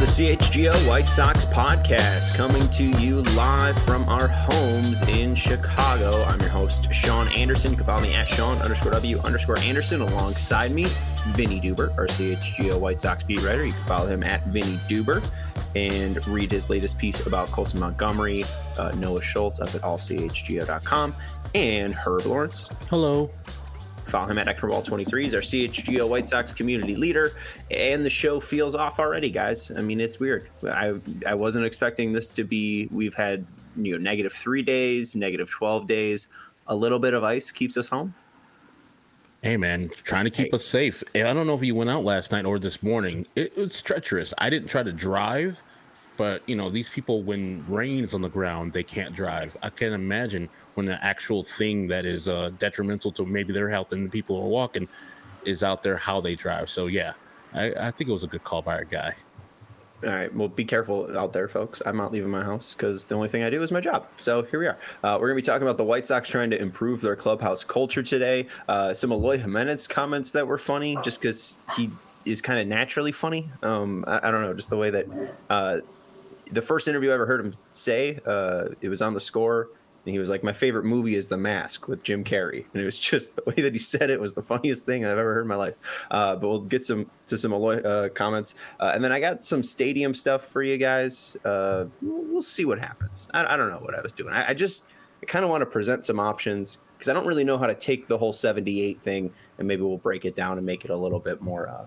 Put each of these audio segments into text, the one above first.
CHGO White Sox podcast, coming to you live from our homes in Chicago. I'm your host, Sean Anderson. You can follow me at Sean_W_Anderson. Alongside me, Vinny Duber, our CHGO White Sox beat writer. You can follow him at Vinny Duber and read his latest piece about Colson Montgomery, Noah Schultz up at allchgo.com, and Herb Lawrence. Hello. Follow him at Eckerball23. He's our CHGO White Sox community leader, and the show feels off already, guys. I mean, it's weird. I wasn't expecting this to be. We've had -3 days, -12 days. A little bit of ice keeps us home. Hey, man, trying to keep us safe. I don't know if you went out last night or this morning. It was treacherous. I didn't try to drive, but, these people, when rain is on the ground, they can't drive. I can't imagine when the actual thing that is detrimental to maybe their health and the people who are walking is out there, how they drive. So, yeah, I think it was a good call by our guy. All right. Well, be careful out there, folks. I'm not leaving my house because the only thing I do is my job. So here we are. We're going to be talking about the White Sox trying to improve their clubhouse culture today. Some Eloy Jimenez comments that were funny just because he is kind of naturally funny. I don't know, just the way that the first interview I ever heard him say, it was on The Score. And he was like, my favorite movie is The Mask with Jim Carrey. And it was just the way that he said it was the funniest thing I've ever heard in my life. But we'll get to some Eloy comments. And then I got some stadium stuff for you guys. We'll see what happens. I don't know what I was doing. I kind of want to present some options because I don't really know how to take the whole 78 thing. And maybe we'll break it down and make it a little bit more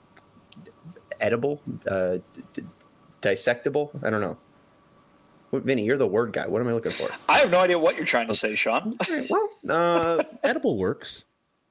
edible, dissectable. I don't know. Vinny, you're the word guy. What am I looking for? I have no idea what you're trying to say, Sean. Well, edible works.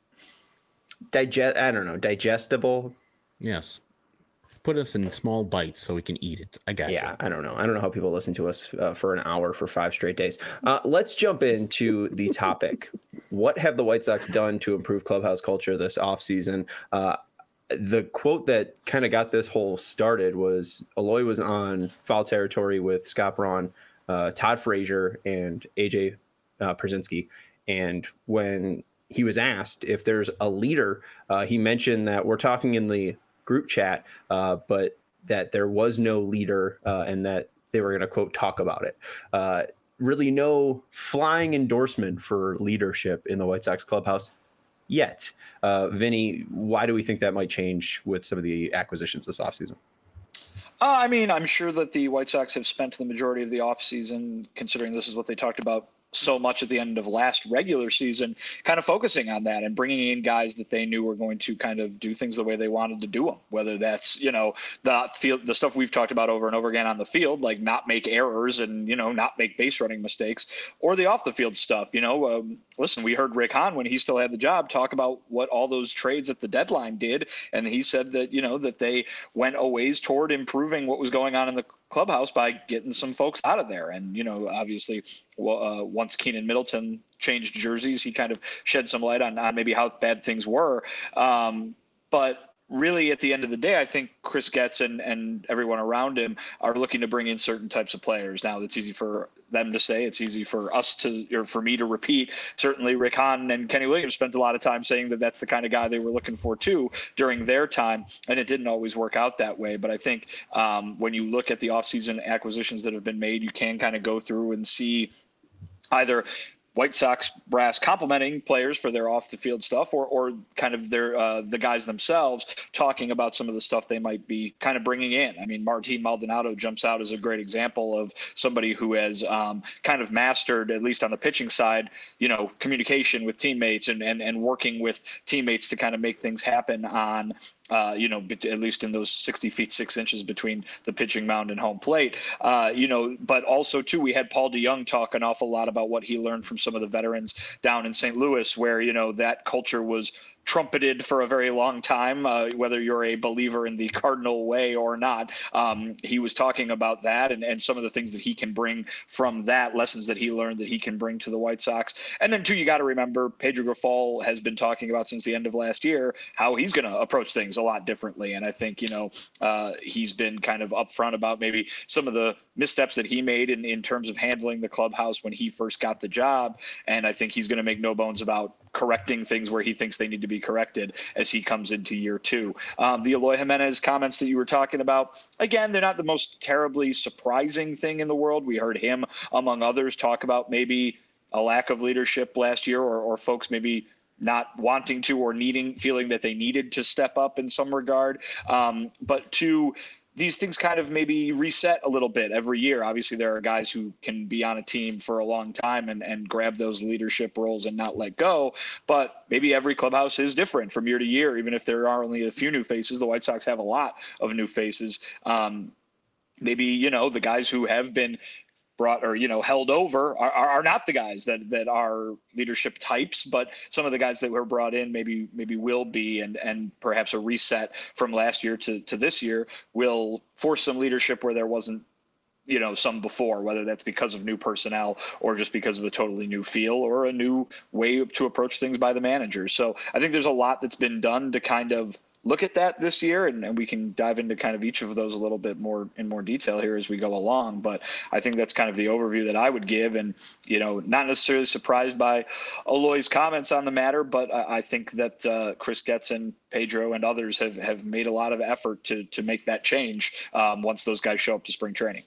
I don't know. Digestible. Yes. Put us in small bites so we can eat it. I got you. Yeah, I don't know. I don't know how people listen to us for an hour for 5 straight days. Let's jump into the topic. What have the White Sox done to improve clubhouse culture this offseason? The quote that kind of got this whole started was Eloy was on Foul Territory with Scott Braun, Todd Frazier, and AJ Pierzynski. And when he was asked if there's a leader, he mentioned that we're talking in the group chat, but that there was no leader and that they were going to, quote, talk about it. Really no flying endorsement for leadership in the White Sox clubhouse yet. Vinny, why do we think that might change with some of the acquisitions this offseason? I mean, I'm sure that the White Sox have spent the majority of the offseason, considering this is what they talked about so much at the end of last regular season, kind of focusing on that and bringing in guys that they knew were going to kind of do things the way they wanted to do them, whether that's, the stuff we've talked about over and over again on the field, like not make errors and, not make base running mistakes, or the off the field stuff. Listen, we heard Rick Hahn when he still had the job talk about what all those trades at the deadline did. And he said that, that they went a ways toward improving what was going on in the clubhouse by getting some folks out of there. And, obviously, once Keenan Middleton changed jerseys, he kind of shed some light on maybe how bad things were. But really, at the end of the day, I think Chris Getz and everyone around him are looking to bring in certain types of players. Now, that's easy for them to say. It's easy for us or for me to repeat. Certainly, Rick Hahn and Kenny Williams spent a lot of time saying that that's the kind of guy they were looking for, too, during their time. And it didn't always work out that way. But I think when you look at the offseason acquisitions that have been made, you can kind of go through and see either White Sox brass complimenting players for their off the field stuff or kind of their the guys themselves talking about some of the stuff they might be kind of bringing in. I mean, Martin Maldonado jumps out as a great example of somebody who has kind of mastered, at least on the pitching side, communication with teammates and working with teammates to kind of make things happen on at least in those 60 feet 6 inches between the pitching mound and home plate. But also too, we had Paul DeJong talk an awful lot about what he learned from some of the veterans down in St. Louis, where that culture was trumpeted for a very long time, whether you're a believer in the Cardinal way or not. He was talking about that and some of the things that he can bring from that, lessons that he learned that he can bring to the White Sox. And then, too, you got to remember Pedro Grifol has been talking about since the end of last year how he's going to approach things a lot differently. And I think, he's been kind of upfront about maybe some of the missteps that he made in terms of handling the clubhouse when he first got the job. And I think he's going to make no bones about correcting things where he thinks they need to be corrected as he comes into year two. The Eloy Jimenez comments that you were talking about, again, they're not the most terribly surprising thing in the world. We heard him, among others, talk about maybe a lack of leadership last year, or folks maybe not wanting to or feeling that they needed to step up in some regard. But these things kind of maybe reset a little bit every year. Obviously, there are guys who can be on a team for a long time and grab those leadership roles and not let go. But maybe every clubhouse is different from year to year. Even if there are only a few new faces, the White Sox have a lot of new faces. Maybe, the guys who have been brought or held over are not the guys that are leadership types, but some of the guys that were brought in maybe will be, and perhaps a reset from last year to this year will force some leadership where there wasn't some before, whether that's because of new personnel or just because of a totally new feel or a new way to approach things by the managers. So I think there's a lot that's been done to kind of look at that this year, and we can dive into kind of each of those a little bit more in more detail here as we go along. But I think that's kind of the overview that I would give, and not necessarily surprised by Eloy's comments on the matter, but I think that Chris Getz and Pedro and others have made a lot of effort to make that change once those guys show up to spring training.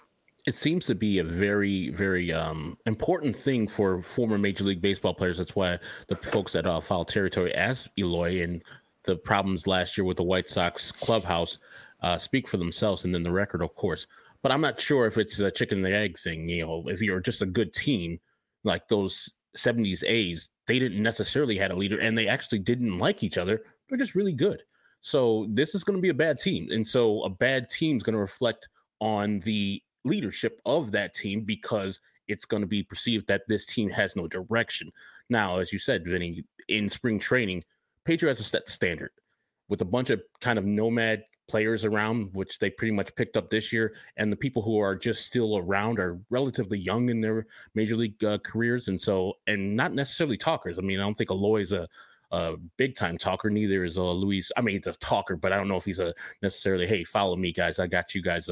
It seems to be a very, very important thing for former Major League Baseball players. That's why the folks at Foul Territory asked Eloy, and the problems last year with the White Sox clubhouse speak for themselves, and then the record, of course. But I'm not sure if it's a chicken and the egg thing. If you're just a good team, like those 70s A's, they didn't necessarily had a leader, and they actually didn't like each other. They're just really good. So this is going to be a bad team. And so a bad team is going to reflect on the leadership of that team, because it's going to be perceived that this team has no direction. Now, as you said, Vinny, in spring training, Pedro has to set the standard with a bunch of kind of nomad players around, which they pretty much picked up this year. And the people who are just still around are relatively young in their major league careers. And not necessarily talkers. I mean, I don't think Eloy is a big time talker. Neither is Luis. I mean, he's a talker, but I don't know if he's necessarily, hey, follow me, guys. I got you guys.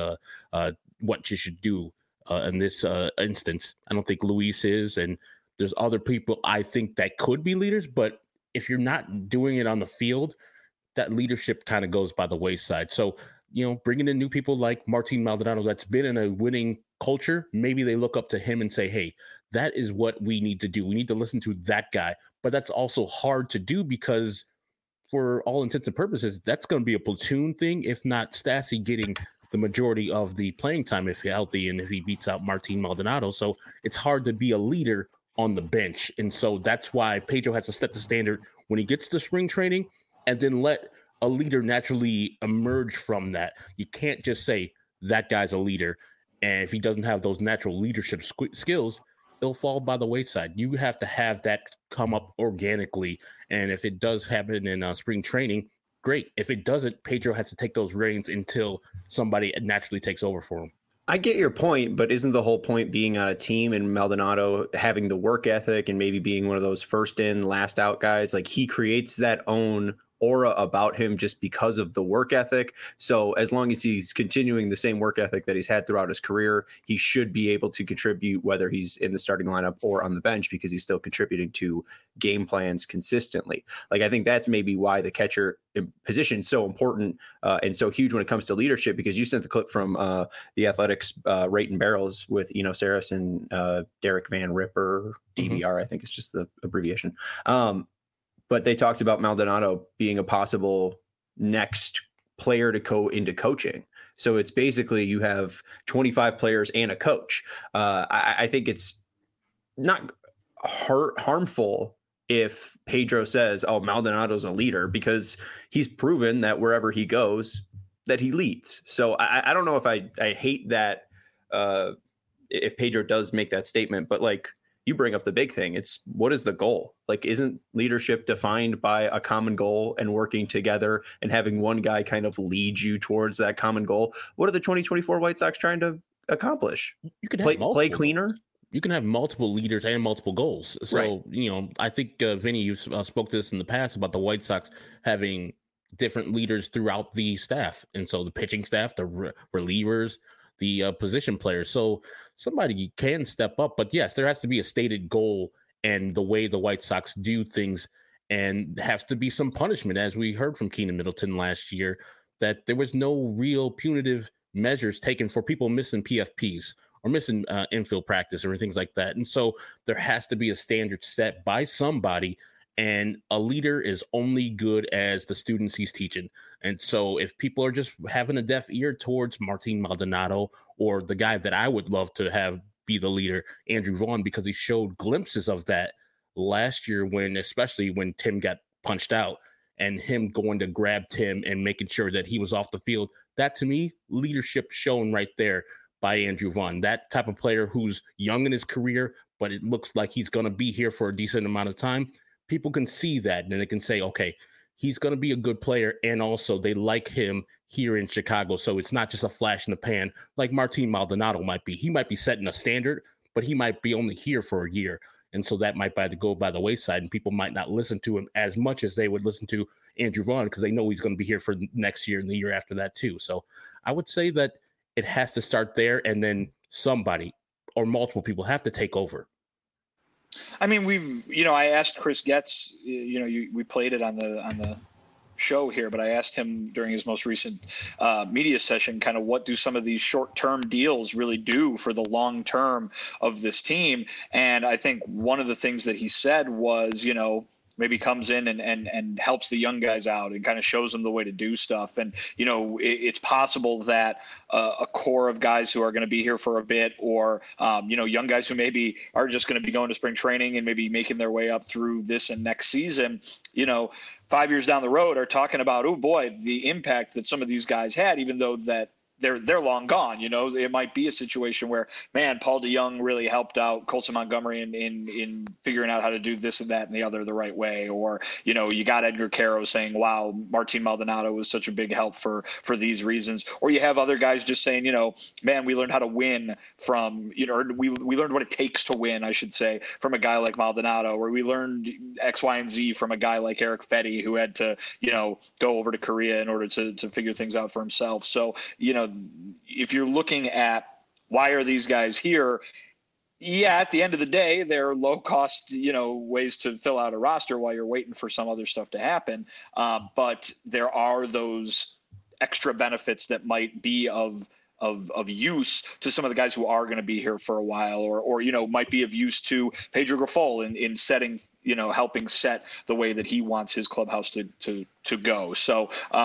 What you should do in this instance. I don't think Luis is. And there's other people I think that could be leaders, but if you're not doing it on the field, that leadership kind of goes by the wayside. So, bringing in new people like Martin Maldonado that's been in a winning culture, maybe they look up to him and say, hey, that is what we need to do. We need to listen to that guy. But that's also hard to do because for all intents and purposes, that's going to be a platoon thing, if not Stassi getting the majority of the playing time if he's healthy and if he beats out Martin Maldonado. So it's hard to be a leader on the bench. And so that's why Pedro has to set the standard when he gets to spring training, and then let a leader naturally emerge from that. You can't just say that guy's a leader, and if he doesn't have those natural leadership skills, it'll fall by the wayside. You have to have that come up organically. And if it does happen in spring training, great. If it doesn't, Pedro has to take those reins until somebody naturally takes over for him. I get your point, but isn't the whole point being on a team and Maldonado having the work ethic and maybe being one of those first in, last out guys? Like, he creates that own aura about him just because of the work ethic. So as long as he's continuing the same work ethic that he's had throughout his career, he should be able to contribute, whether he's in the starting lineup or on the bench, because he's still contributing to game plans consistently. Like, I think that's maybe why the catcher position is so important and so huge when it comes to leadership, because you sent the clip from the Athletics Rate and Barrels with Eno Saris and Derek Van Ripper, DVR, I think it's just the abbreviation. But they talked about Maldonado being a possible next player to go into coaching. So it's basically you have 25 players and a coach. I think it's not harmful if Pedro says, oh, Maldonado's a leader, because he's proven that wherever he goes, that he leads. So I don't know if I hate that if Pedro does make that statement, but like, you bring up the big thing. It's what is the goal? Like, isn't leadership defined by a common goal and working together and having one guy kind of lead you towards that common goal? What are the 2024 White Sox trying to accomplish? You could play cleaner. You can have multiple leaders and multiple goals. So, right. I think, Vinny, you spoke to this in the past about the White Sox having different leaders throughout the staff. And so the pitching staff, the relievers, the position players. So somebody can step up. But yes, there has to be a stated goal and the way the White Sox do things, and has to be some punishment, as we heard from Keenan Middleton last year, that there was no real punitive measures taken for people missing PFPs or missing infield practice or things like that. And so there has to be a standard set by somebody, and a leader is only good as the students he's teaching. And so if people are just having a deaf ear towards Martin Maldonado, or the guy that I would love to have be the leader, Andrew Vaughn, because he showed glimpses of that last year, especially when Tim got punched out, and him going to grab Tim and making sure that he was off the field. That, to me, leadership shown right there by Andrew Vaughn. That type of player who's young in his career, but it looks like he's going to be here for a decent amount of time. People can see that, and they can say, okay, he's going to be a good player, and also they like him here in Chicago. So it's not just a flash in the pan like Martin Maldonado might be. He might be setting a standard, but he might be only here for a year. And so that might go by the wayside, and people might not listen to him as much as they would listen to Andrew Vaughn, because they know he's going to be here for next year and the year after that too. So I would say that it has to start there, and then somebody or multiple people have to take over. I mean, I asked Chris Getz, we played it on the show here, but I asked him during his most recent media session, kind of what do some of these short-term deals really do for the long term of this team? And I think one of the things that he said was, maybe comes in and helps the young guys out and kind of shows them the way to do stuff. And, it's possible that a core of guys who are going to be here for a bit, or, young guys who maybe are just going to be going to spring training and maybe making their way up through this and next season, 5 years down the road are talking about, oh boy, the impact that some of these guys had, even though that they're long gone. It might be a situation where, man, Paul DeYoung really helped out Colson Montgomery in figuring out how to do this and that and the other the right way. Or, you got Edgar Caro saying, wow, Martin Maldonado was such a big help for these reasons. Or you have other guys just saying, man, we learned how to win from, or we learned what it takes to win, I should say, from a guy like Maldonado, or we learned X, Y, and Z from a guy like Erick Fedde, who had to, go over to Korea in order to figure things out for himself. So, if you're looking at why are these guys here, at the end of the day, they're low cost, ways to fill out a roster while you're waiting for some other stuff to happen. But there are those extra benefits that might be of use to some of the guys who are going to be here for a while, or might be of use to Pedro Grifol in setting, helping set the way that he wants his clubhouse to go. So,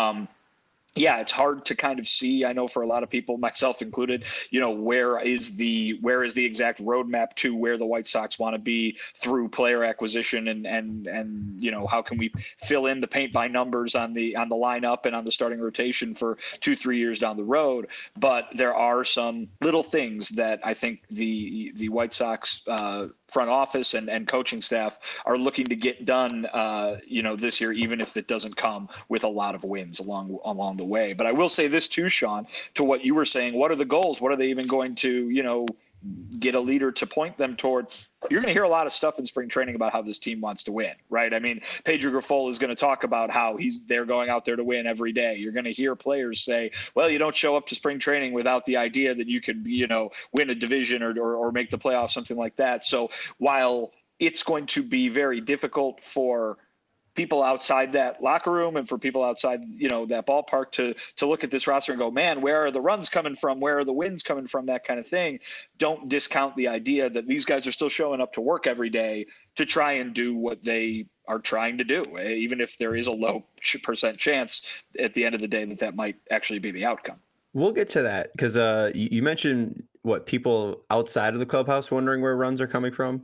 it's hard to kind of see. I know for a lot of people, myself included, where is the exact roadmap to where the White Sox want to be through player acquisition, and how can we fill in the paint by numbers on the lineup and on the starting rotation for 2-3 years down the road. But there are some little things that I think the White Sox front office and coaching staff are looking to get done, this year, even if it doesn't come with a lot of wins along the way. But I will say this too, Sean, to what you were saying, what are the goals? What are they even going to, get a leader to point them toward? You're going to hear a lot of stuff in spring training about how this team wants to win, right? I mean, Pedro Grifol is going to talk about how they're going out there to win every day. You're going to hear players say, well, you don't show up to spring training without the idea that you could, win a division or make the playoffs, something like that. So while it's going to be very difficult for people outside that locker room and for people outside, that ballpark to look at this roster and go, man, where are the runs coming from? Where are the wins coming from? That kind of thing. Don't discount the idea that these guys are still showing up to work every day to try and do what they are trying to do, even if there is a low % chance at the end of the day that might actually be the outcome. We'll get to that because you mentioned people outside of the clubhouse wondering where runs are coming from.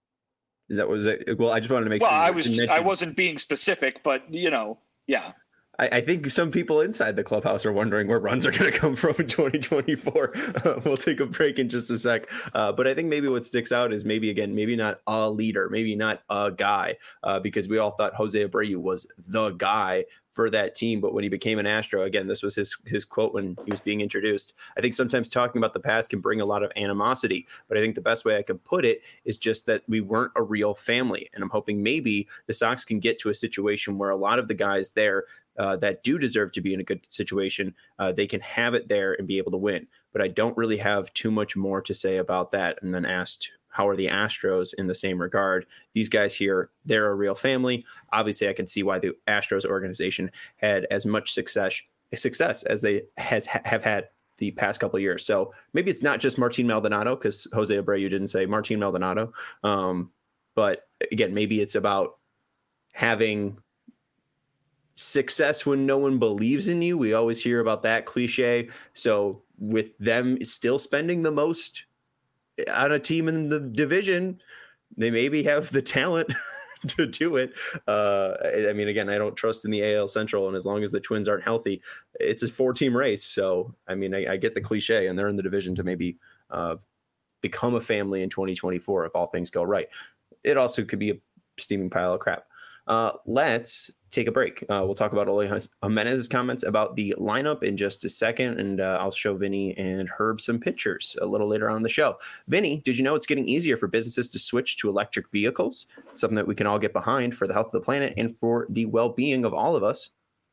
Is that was it? Well, I just wanted to make sure. Well, I wasn't being specific, but yeah. I think some people inside the clubhouse are wondering where runs are going to come from in 2024. We'll take a break in just a sec. But I think maybe what sticks out is maybe not a leader, maybe not a guy, because we all thought Jose Abreu was the guy for that team. But when he became an Astro, again, this was his quote when he was being introduced. I think sometimes talking about the past can bring a lot of animosity, but I think the best way I could put it is just that we weren't a real family. And I'm hoping maybe the Sox can get to a situation where a lot of the guys there that do deserve to be in a good situation, they can have it there and be able to win. But I don't really have too much more to say about that. And then asked, how are the Astros in the same regard? These guys here, they're a real family. Obviously, I can see why the Astros organization had as much success as they have had the past couple of years. So maybe it's not just Martin Maldonado, because Jose Abreu didn't say Martin Maldonado. But again, maybe it's about having success when no one believes in you. We always hear about that cliche. So with them still spending the most on a team in the division, they maybe have the talent to do it. I mean, again, I don't trust in the AL Central, and as long as the Twins aren't healthy, it's a 4-team race. So, I mean, I get the cliche, and they're in the division to maybe become a family in 2024 if all things go right. It also could be a steaming pile of crap. Let's take a break. We'll talk about Eloy Jimenez's comments about the lineup in just a second, and I'll show Vinny and Herb some pictures a little later on in the show. Vinny, did you know it's getting easier for businesses to switch to electric vehicles? It's something that we can all get behind for the health of the planet and for the well-being of all of us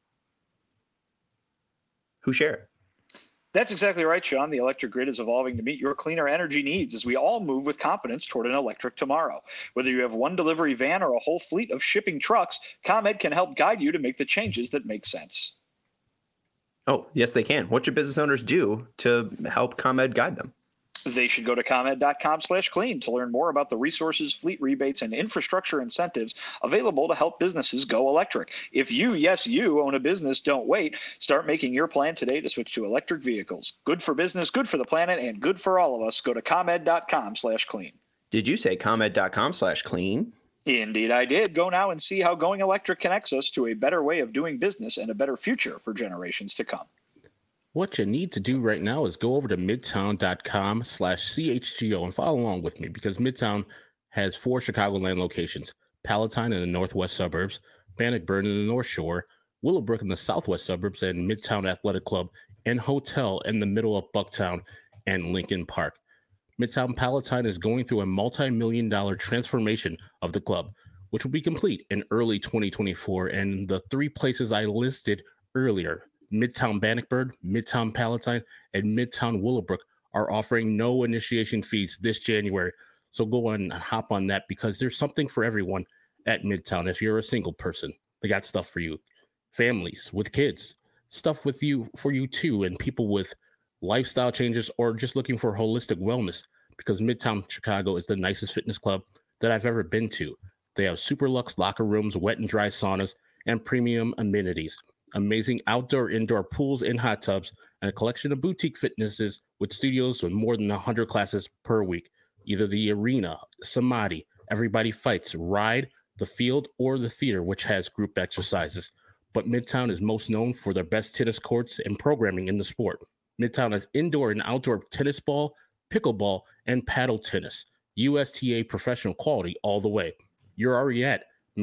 who share it. That's exactly right, Sean. The electric grid is evolving to meet your cleaner energy needs as we all move with confidence toward an electric tomorrow. Whether you have one delivery van or a whole fleet of shipping trucks, ComEd can help guide you to make the changes that make sense. Oh, yes, they can. What should business owners do to help ComEd guide them? They should go to ComEd.com/clean to learn more about the resources, fleet rebates, and infrastructure incentives available to help businesses go electric. If you, yes, you own a business, don't wait. Start making your plan today to switch to electric vehicles. Good for business, good for the planet, and good for all of us. Go to ComEd.com/clean. Did you say ComEd.com/clean? Indeed, I did. Go now and see how going electric connects us to a better way of doing business and a better future for generations to come. What you need to do right now is go over to midtown.com/CHGO and follow along with me, because Midtown has 4 Chicagoland locations: Palatine in the northwest suburbs, Bannockburn in the North Shore, Willowbrook in the southwest suburbs, and Midtown Athletic Club and Hotel in the middle of Bucktown and Lincoln Park. Midtown Palatine is going through a multi-million-dollar transformation of the club, which will be complete in early 2024, and the 3 places I listed earlier, Midtown Bannockburn, Midtown Palatine, and Midtown Willowbrook, are offering no initiation fees this January. So go on and hop on that, because there's something for everyone at Midtown. If you're a single person, they got stuff for you. Families with kids, stuff for you too, and people with lifestyle changes or just looking for holistic wellness, because Midtown Chicago is the nicest fitness club that I've ever been to. They have super luxe locker rooms, wet and dry saunas, and premium amenities. Amazing outdoor, indoor pools and hot tubs, and a collection of boutique fitnesses with studios with more than 100 classes per week. Either the arena, Samadhi, Everybody Fights, Ride, the field, or the theater, which has group exercises. But Midtown is most known for their best tennis courts and programming in the sport. Midtown has indoor and outdoor tennis ball, pickleball, and paddle tennis. USTA professional quality all the way. You're already at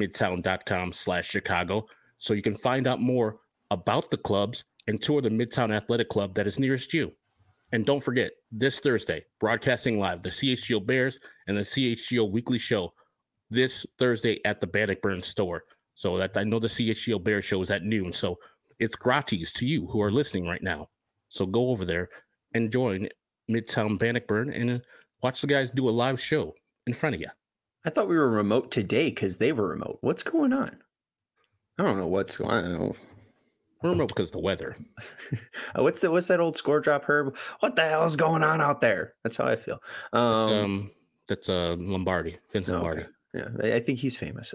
midtown.com/Chicago. So you can find out more about the clubs and tour the Midtown Athletic Club that is nearest you. And don't forget, this Thursday, broadcasting live, the CHGO Bears and the CHGO Weekly Show this Thursday at the Bannockburn store. So that I know the CHGO Bears show is at noon. So it's gratis to you who are listening right now. So go over there and join Midtown Bannockburn and watch the guys do a live show in front of you. I thought we were remote today because they were remote. What's going on? I don't know what's going on. We're remote because of the weather. What's that old score drop, Herb? What the hell is going on out there? That's how I feel. That's Lombardi, Vince Lombardi. Okay. Yeah, I think he's famous.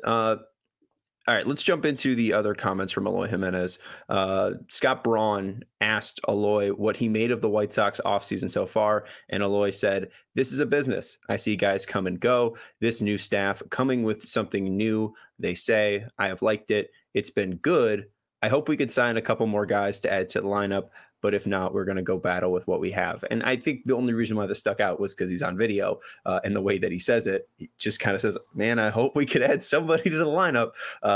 All right, let's jump into the other comments from Eloy Jimenez. Scott Braun asked Eloy what he made of the White Sox offseason so far, and Eloy said, "This is a business. I see guys come and go. This new staff coming with something new. They say, I have liked it. It's been good, I hope we could sign a couple more guys to add to the lineup. But if not, we're going to go battle with what we have. And I think the only reason why this stuck out was because he's on video, and the way that he says it, he just kind of says, man, I hope we could add somebody to the lineup.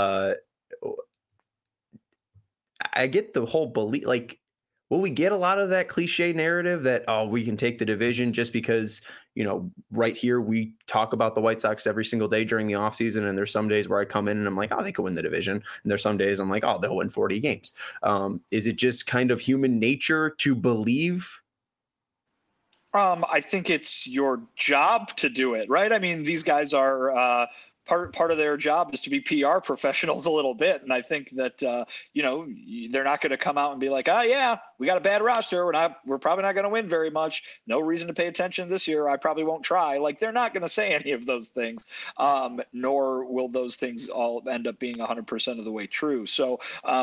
I get the whole belief, like, will we get a lot of that cliche narrative that, oh, we can take the division just because, right here we talk about the White Sox every single day during the offseason, and there's some days where I come in and I'm like, oh, they could win the division. And there's some days I'm like, oh, they'll win 40 games. Is it just kind of human nature to believe? I think it's your job to do it, right? I mean, these guys are part of their job is to be PR professionals a little bit. And I think that, they're not going to come out and be like, oh yeah, we got a bad roster. We're probably not going to win very much. No reason to pay attention this year. I probably won't try. Like, they're not going to say any of those things, nor will those things all end up being 100% of the way true. So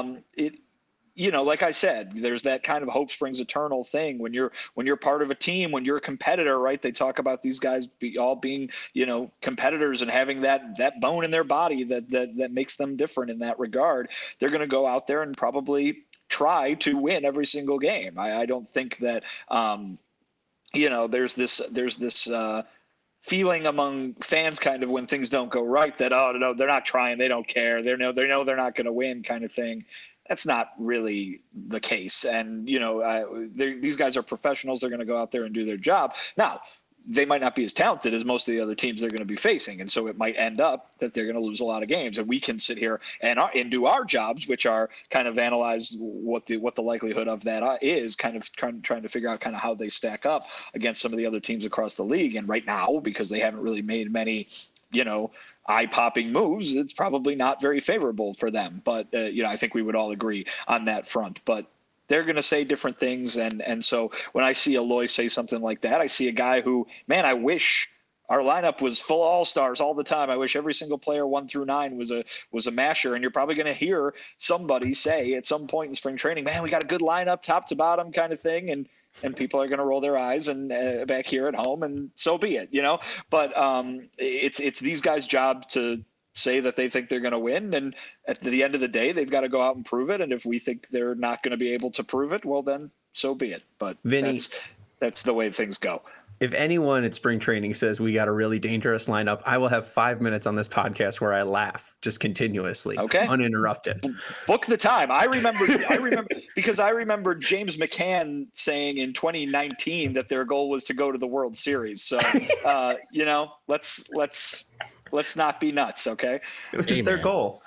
like I said, there's that kind of hope springs eternal thing when you're part of a team, when you're a competitor, right? They talk about these guys all being, competitors and having that bone in their body that makes them different in that regard. They're going to go out there and probably try to win every single game. I don't think that, there's this feeling among fans kind of when things don't go right that, oh, no, they're not trying. They don't care. They know they're not going to win kind of thing. That's not really the case. And, these guys are professionals. They're going to go out there and do their job. Now, they might not be as talented as most of the other teams they're going to be facing. And so it might end up that they're going to lose a lot of games. And we can sit here and do our jobs, which are kind of analyze what the likelihood of that is, kind of trying to figure out kind of how they stack up against some of the other teams across the league. And right now, because they haven't really made many, eye-popping moves, it's probably not very favorable for them. But, I think we would all agree on that front. But they're going to say different things. And so when I see Eloy say something like that, I see a guy who, man, I wish our lineup was full of all-stars all the time. I wish every single player 1 through 9 was a masher. And you're probably going to hear somebody say at some point in spring training, man, we got a good lineup top to bottom kind of thing. And people are going to roll their eyes and back here at home, and so be it, But it's these guys' job to say that they think they're going to win, and at the end of the day, they've got to go out and prove it. And if we think they're not going to be able to prove it, well, then so be it. But Vinny, that's the way things go. If anyone at spring training says we got a really dangerous lineup, I will have 5 minutes on this podcast where I laugh just continuously, uninterrupted. Book the time. I remember because I remember James McCann saying in 2019 that their goal was to go to the World Series. So, let's not be nuts. Okay. It was just their goal.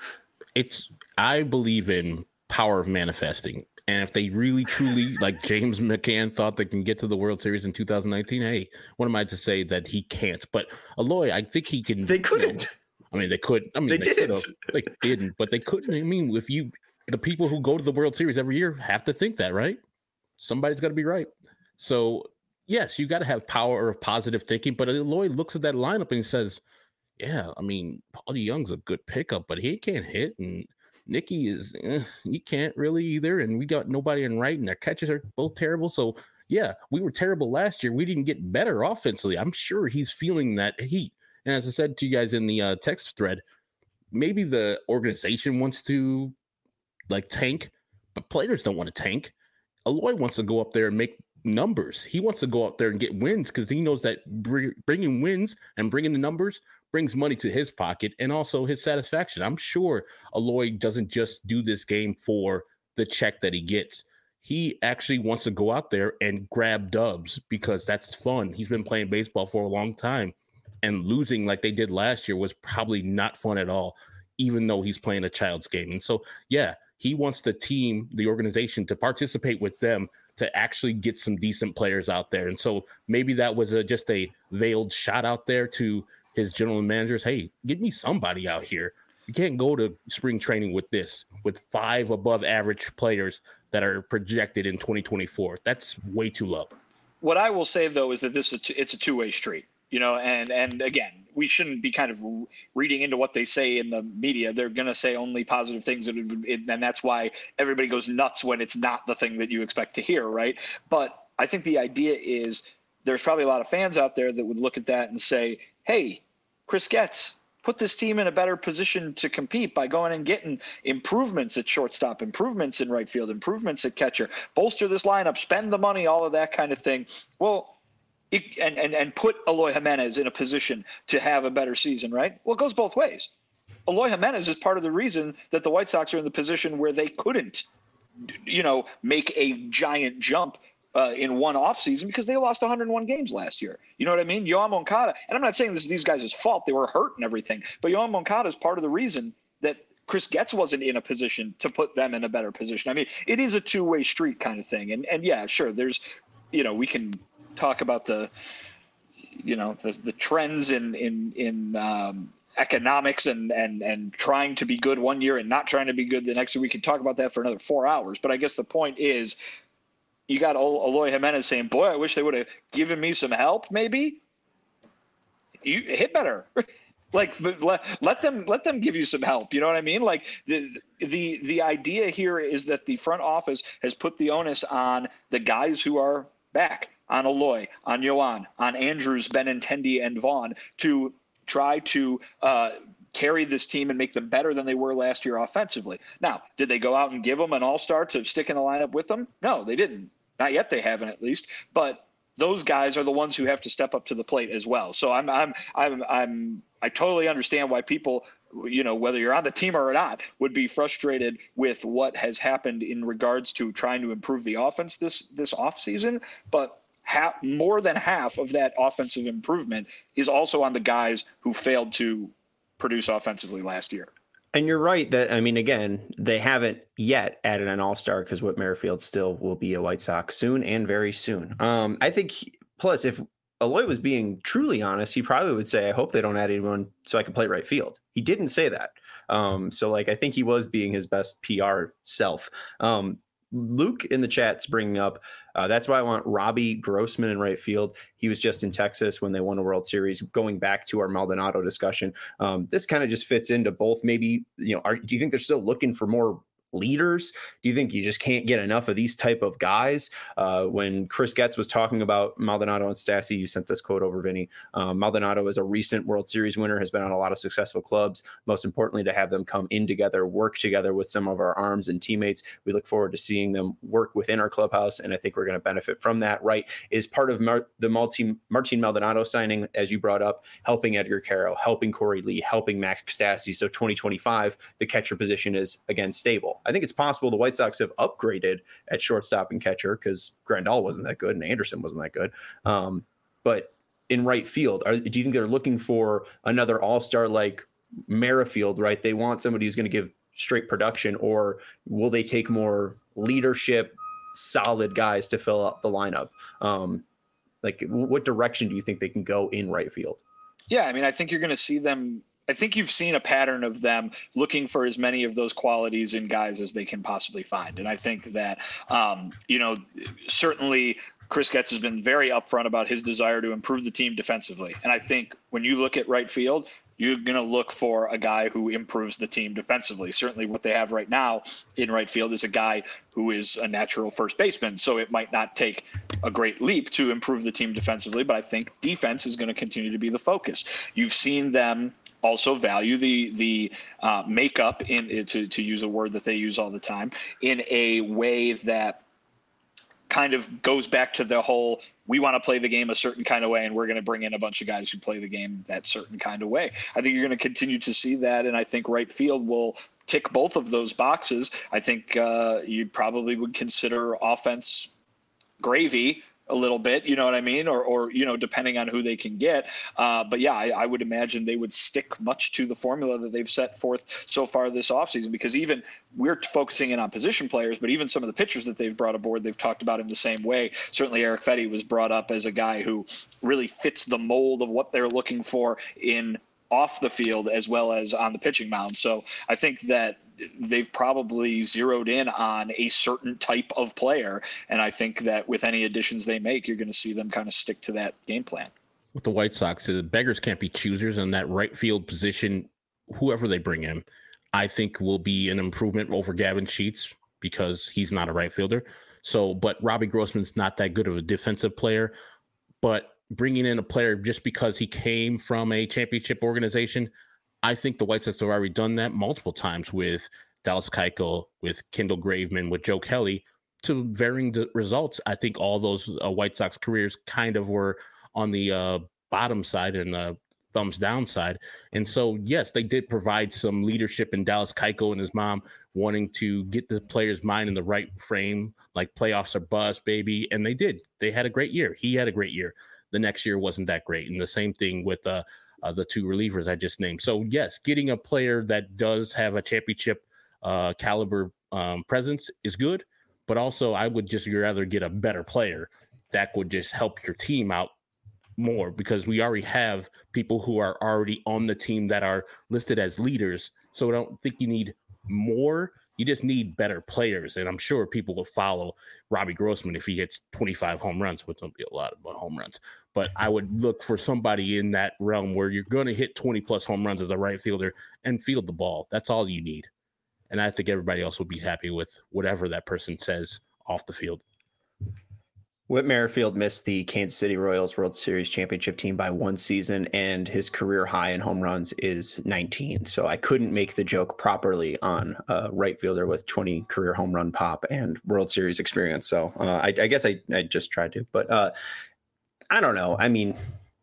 I believe in power of manifesting. And if they really, truly, like James McCann thought they can get to the World Series in 2019, hey, what am I to say that he can't? But Eloy, I think he can. They couldn't. They couldn't. They didn't. They didn't, but they couldn't. The people who go to the World Series every year have to think that, right? Somebody's got to be right. So, yes, you got to have power of positive thinking. But Eloy looks at that lineup and he says, yeah, Paulie Young's a good pickup, but he can't hit. And Nicky he can't really either, and we got nobody in right, and their catches are both terrible. So yeah, we were terrible last year. We didn't get better offensively. I'm sure he's feeling that heat. And as I said to you guys in the text thread, maybe the organization wants to tank, but players don't want to tank. Eloy wants to go up there and make numbers. He wants to go out there and get wins because he knows that bringing wins and bringing the numbers brings money to his pocket and also his satisfaction. I'm sure Eloy doesn't just do this game for the check that he gets. He actually wants to go out there and grab dubs because that's fun. He's been playing baseball for a long time, and losing like they did last year was probably not fun at all, even though he's playing a child's game. And so, yeah, he wants the team, the organization, to participate with them to actually get some decent players out there. And so maybe that was just a veiled shot out there to his general managers. Hey, get me somebody out here. You can't go to spring training with 5 above average players that are projected in 2024. That's way too low. What I will say, though, is that it's a two-way street. And again, we shouldn't be kind of reading into what they say in the media. They're going to say only positive things, and that's why everybody goes nuts when it's not the thing that you expect to hear, right? But I think the idea is there's probably a lot of fans out there that would look at that and say, hey, Chris Getz, put this team in a better position to compete by going and getting improvements at shortstop, improvements in right field, improvements at catcher, bolster this lineup, spend the money, all of that kind of thing. Well, and put Eloy Jimenez in a position to have a better season, right? Well, it goes both ways. Eloy Jimenez is part of the reason that the White Sox are in the position where they couldn't, make a giant jump in one offseason because they lost 101 games last year. You know what I mean? Yoan Moncada, and I'm not saying this is these guys' fault. They were hurt and everything. But Yoan Moncada is part of the reason that Chris Getz wasn't in a position to put them in a better position. I mean, it is a two-way street kind of thing. And yeah, sure, there's, we can talk about the trends in economics and trying to be good one year and not trying to be good the next year. We could talk about that for another 4 hours. But I guess the point is, you got Eloy Jimenez saying, boy, I wish they would have given me some help. Maybe you hit better. Like, let them give you some help. You know what I mean? Like the idea here is that the front office has put the onus on the guys who are back, on Eloy, on Yoan, on Andrews, Benintendi, and Vaughn to try to carry this team and make them better than they were last year offensively. Now, did they go out and give them an all-star to stick in the lineup with them? No, they didn't. Not yet. They haven't, at least. But those guys are the ones who have to step up to the plate as well. So I totally understand why people, whether you're on the team or not, would be frustrated with what has happened in regards to trying to improve the offense this offseason. But more than half of that offensive improvement is also on the guys who failed to produce offensively last year. And you're right that, again, they haven't yet added an all-star because Whit Merrifield still will be a White Sox soon and very soon. I think, plus, if Eloy was being truly honest, he probably would say, I hope they don't add anyone so I can play right field. He didn't say that. I think he was being his best PR self. Luke in the chat's bringing up, that's why I want Robbie Grossman in right field. He was just in Texas when they won a World Series. Going back to our Maldonado discussion, this kind of just fits into both. Maybe, do you think they're still looking for more leaders? Do you think you just can't get enough of these type of guys? When Chris Getz was talking about Maldonado and Stassi, you sent this quote over, Vinny. Maldonado is a recent World Series winner, has been on a lot of successful clubs. Most importantly, to have them come in together, work together with some of our arms and teammates. We look forward to seeing them work within our clubhouse, and I think we're going to benefit from that. Right, is part of the Martin Maldonado signing, as you brought up, helping Edgar Carroll, helping Corey Lee, helping Max Stassi. So 2025, the catcher position is again stable. I think it's possible the White Sox have upgraded at shortstop and catcher because Grandal wasn't that good and Anderson wasn't that good. But in right field, do you think they're looking for another all-star like Merrifield, right? They want somebody who's going to give straight production, or will they take more leadership, solid guys to fill up the lineup? What direction do you think they can go in right field? Yeah, I think you're going to see them. I think you've seen a pattern of them looking for as many of those qualities in guys as they can possibly find. And I think that, certainly Chris Getz has been very upfront about his desire to improve the team defensively. And I think when you look at right field, you're going to look for a guy who improves the team defensively. Certainly what they have right now in right field is a guy who is a natural first baseman. So it might not take a great leap to improve the team defensively, but I think defense is going to continue to be the focus. You've seen them also value the makeup to use a word that they use all the time, in a way that kind of goes back to the whole, we want to play the game a certain kind of way, and we're going to bring in a bunch of guys who play the game that certain kind of way. I think you're going to continue to see that, and I think right field will tick both of those boxes. I think you probably would consider offense gravy a little bit, you know what I mean? Or depending on who they can get. But yeah, I would imagine they would stick much to the formula that they've set forth so far this offseason, because even we're focusing in on position players, but even some of the pitchers that they've brought aboard, they've talked about in the same way. Certainly Eric Fetty was brought up as a guy who really fits the mold of what they're looking for in off the field as well as on the pitching mound. So I think that they've probably zeroed in on a certain type of player. And I think that with any additions they make, you're going to see them kind of stick to that game plan. With the White Sox, the beggars can't be choosers, in that right field position. Whoever they bring in, I think will be an improvement over Gavin Sheets, because he's not a right fielder. But Robbie Grossman's not that good of a defensive player. But bringing in a player just because he came from a championship organization, I think the White Sox have already done that multiple times with Dallas Keuchel, with Kendall Graveman, with Joe Kelly, to varying results. I think all those White Sox careers kind of were on the bottom side and the thumbs down side. And so, yes, they did provide some leadership in Dallas Keuchel and his mom wanting to get the player's mind in the right frame, like playoffs are bust, baby. And they did. They had a great year. He had a great year. The next year wasn't that great. And the same thing with the two relievers I just named. So, yes, getting a player that does have a championship caliber presence is good. But also, I would just rather get a better player that would just help your team out more, because we already have people who are already on the team that are listed as leaders. So I don't think you need more. You just need better players. And I'm sure people will follow Robbie Grossman if he hits 25 home runs, which won't be a lot of home runs. But I would look for somebody in that realm where you're going to hit 20 plus home runs as a right fielder and field the ball. That's all you need. And I think everybody else will be happy with whatever that person says off the field. Whit Merrifield missed the Kansas City Royals World Series championship team by one season, and his career high in home runs is 19. So I couldn't make the joke properly on a right fielder with 20 career home run pop and World Series experience. So I guess I just tried to, but I don't know. I mean,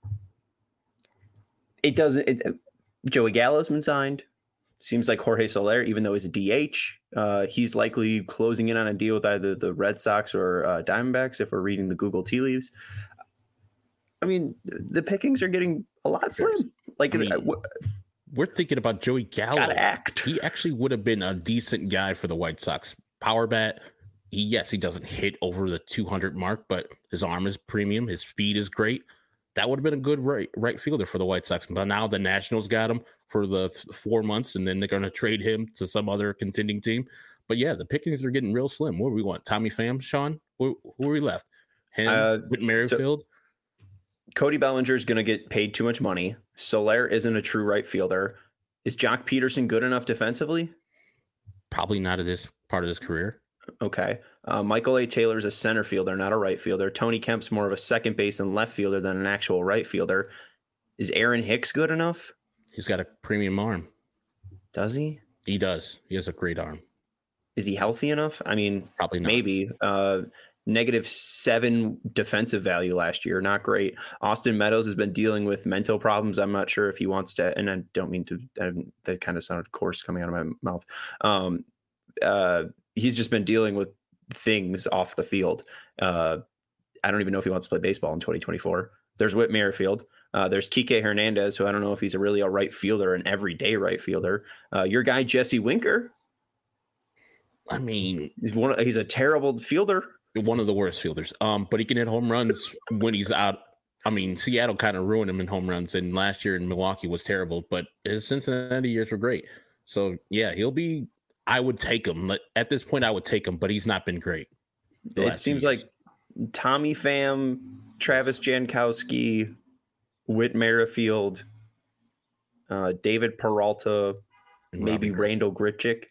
it doesn't. Joey Gallo's been signed. Seems like Jorge Soler, even though he's a DH, he's likely closing in on a deal with either the Red Sox or Diamondbacks, if we're reading the Google tea leaves. I mean, the pickings are getting a lot slim. Like, we're thinking about Joey Gallo. Gotta act. He actually would have been a decent guy for the White Sox. Power bat. He doesn't hit over the 200 mark, but his arm is premium. His speed is great. That would have been a good right fielder for the White Sox. But now the Nationals got him for the 4 months, and then they're going to trade him to some other contending team. But yeah, the pickings are getting real slim. What do we want? Tommy Pham, Sean? Who are we left? Him, Whit Merrifield? So Cody Bellinger is going to get paid too much money. Soler isn't a true right fielder. Is Jock Peterson good enough defensively? Probably not at this part of his career. Okay. Michael A. Taylor is a center fielder, not a right fielder. Tony Kemp's more of a second base and left fielder than an actual right fielder. Is Aaron Hicks good enough? He's got a premium arm. Does he? He does. He has a great arm. Is he healthy enough? I mean, probably not. Maybe. -7 defensive value last year. Not great. Austin Meadows has been dealing with mental problems. I'm not sure if he wants to, and I don't mean to, that kind of sounded coarse coming out of my mouth. He's just been dealing with things off the field. I don't even know if he wants to play baseball in 2024. There's Whit Merrifield. There's Kike Hernandez, who I don't know if he's really a right fielder, an everyday right fielder. Your guy, Jesse Winker. I mean, he's a terrible fielder. One of the worst fielders. But he can hit home runs when he's out. I mean, Seattle kind of ruined him in home runs, and last year in Milwaukee was terrible, but his Cincinnati years were great. So yeah, I would take him. At this point, I would take him, but he's not been great. It seems like Tommy Pham, Travis Jankowski, Whit Merrifield, David Peralta, maybe Randall Grichuk,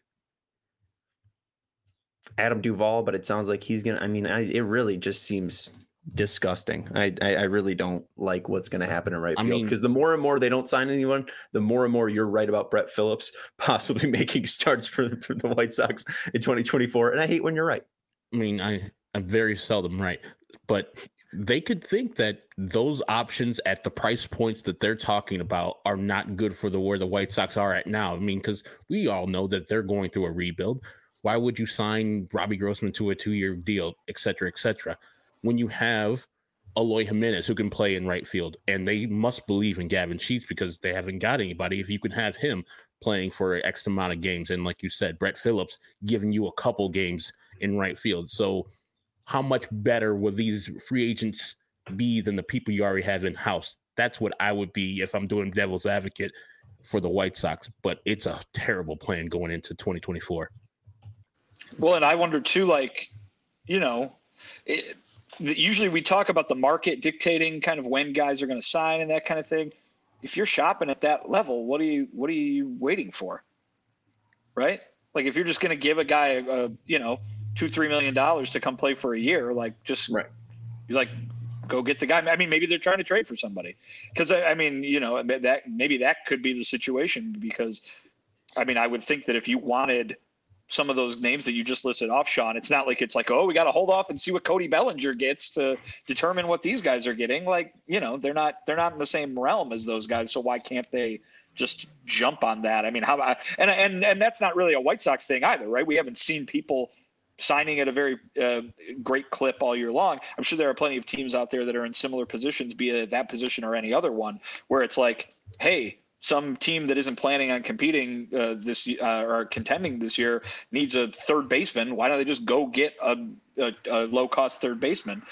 Adam Duvall, but it sounds like he's going to, I mean, it really just seems disgusting. I really don't like what's going to happen in right field, because the more and more they don't sign anyone, the more and more you're right about Brett Phillips possibly making starts for the White Sox in 2024. And I hate when you're right. I mean, I'm very seldom right, but they could think that those options at the price points that they're talking about are not good for where the White Sox are at now. I mean, because we all know that they're going through a rebuild. Why would you sign Robbie Grossman to a 2-year deal, et cetera, when you have Eloy Jimenez who can play in right field? And they must believe in Gavin Sheets because they haven't got anybody. If you can have him playing for X amount of games, and like you said, Brett Phillips giving you a couple games in right field. So how much better will these free agents be than the people you already have in-house? That's what I would be if I'm doing devil's advocate for the White Sox. But it's a terrible plan going into 2024. Well, and I wonder too, usually we talk about the market dictating kind of when guys are going to sign and that kind of thing. If you're shopping at that level, what are you waiting for? Right? Like if you're just going to give a guy $2-3 million to come play for a year, like just right. You're like, go get the guy. I mean, maybe they're trying to trade for somebody because I mean, that could be the situation because I mean, I would think that if you wanted some of those names that you just listed off, Sean, it's not like it's like, oh, we got to hold off and see what Cody Bellinger gets to determine what these guys are getting. Like, they're not in the same realm as those guys. So why can't they just jump on that? I mean, how about, and that's not really a White Sox thing either, right? We haven't seen people signing at a very great clip all year long. I'm sure there are plenty of teams out there that are in similar positions, be it that position or any other one, where it's like, hey, some team that isn't planning on competing or contending this year needs a third baseman. Why don't they just go get a low cost third baseman?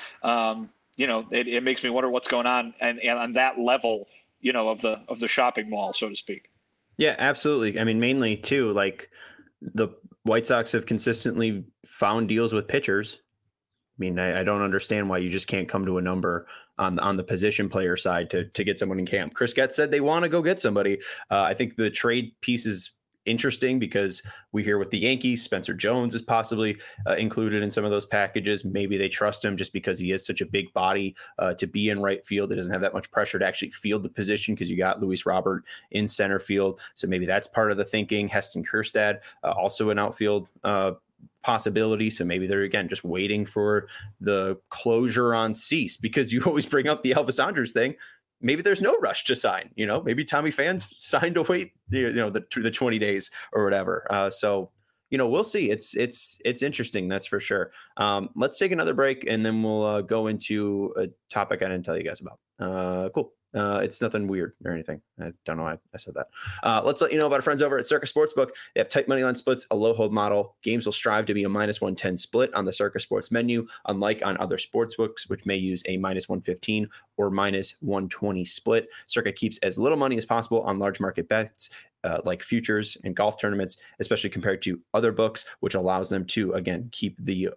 It makes me wonder what's going on and on that level, of the shopping mall, so to speak. Yeah, absolutely. I mean, mainly too, like the White Sox have consistently found deals with pitchers. I mean, I don't understand why you just can't come to a number on the position player side to get someone in camp. Chris Getz said they want to go get somebody. I think the trade piece is interesting because we hear with the Yankees, Spencer Jones is possibly included in some of those packages. Maybe they trust him just because he is such a big body to be in right field. It doesn't have that much pressure to actually field the position because you got Luis Robert in center field. So maybe that's part of the thinking. Heston Kjerstad, also an outfield possibility. So maybe they're, again, just waiting for the closure on Cease, because you always bring up the Elvis Andrus thing. Maybe there's no rush to sign, maybe Tommy Phan's signed to wait, the 20 days or whatever. So, we'll see. It's interesting. That's for sure. Let's take another break and then we'll go into a topic I didn't tell you guys about. Cool. It's nothing weird or anything. I don't know why I said that. Let's let you know about our friends over at Circa Sportsbook. They have tight money line splits, a low hold model. Games will strive to be a -110 split on the Circa Sports menu, unlike on other sportsbooks, which may use a -115 or -120 split. Circa keeps as little money as possible on large market bets, like futures and golf tournaments, especially compared to other books, which allows them to, again, keep the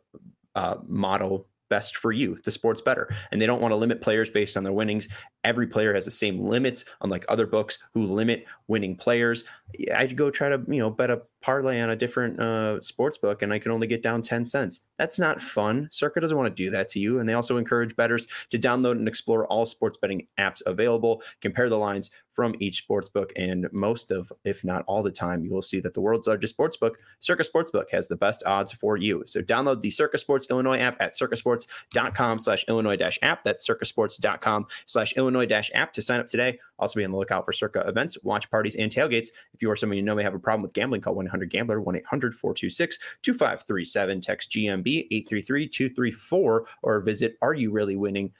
model best for you, the sport's better. And they don't want to limit players based on their winnings. Every player has the same limits, unlike other books who limit winning players. I'd go try to, bet a parlay on a different sports book and I can only get down 10 cents. That's not fun. Circa doesn't want to do that to you. And they also encourage bettors to download and explore all sports betting apps available, compare the lines from each sports book, and most of, if not all the time, you will see that the world's largest sports book, Circa Sportsbook, has the best odds for you. So download the Circa Sports Illinois app at circasports.com/Illinois-app. That's circasports.com/Illinois-app to sign up today. Also be on the lookout for Circa events, watch parties, and tailgates. If you or someone you know may have a problem with gambling, call 1-800-GAMBLER, 1-800-426-2537, text GMB 833-234, or visit areyoureallywinning.com.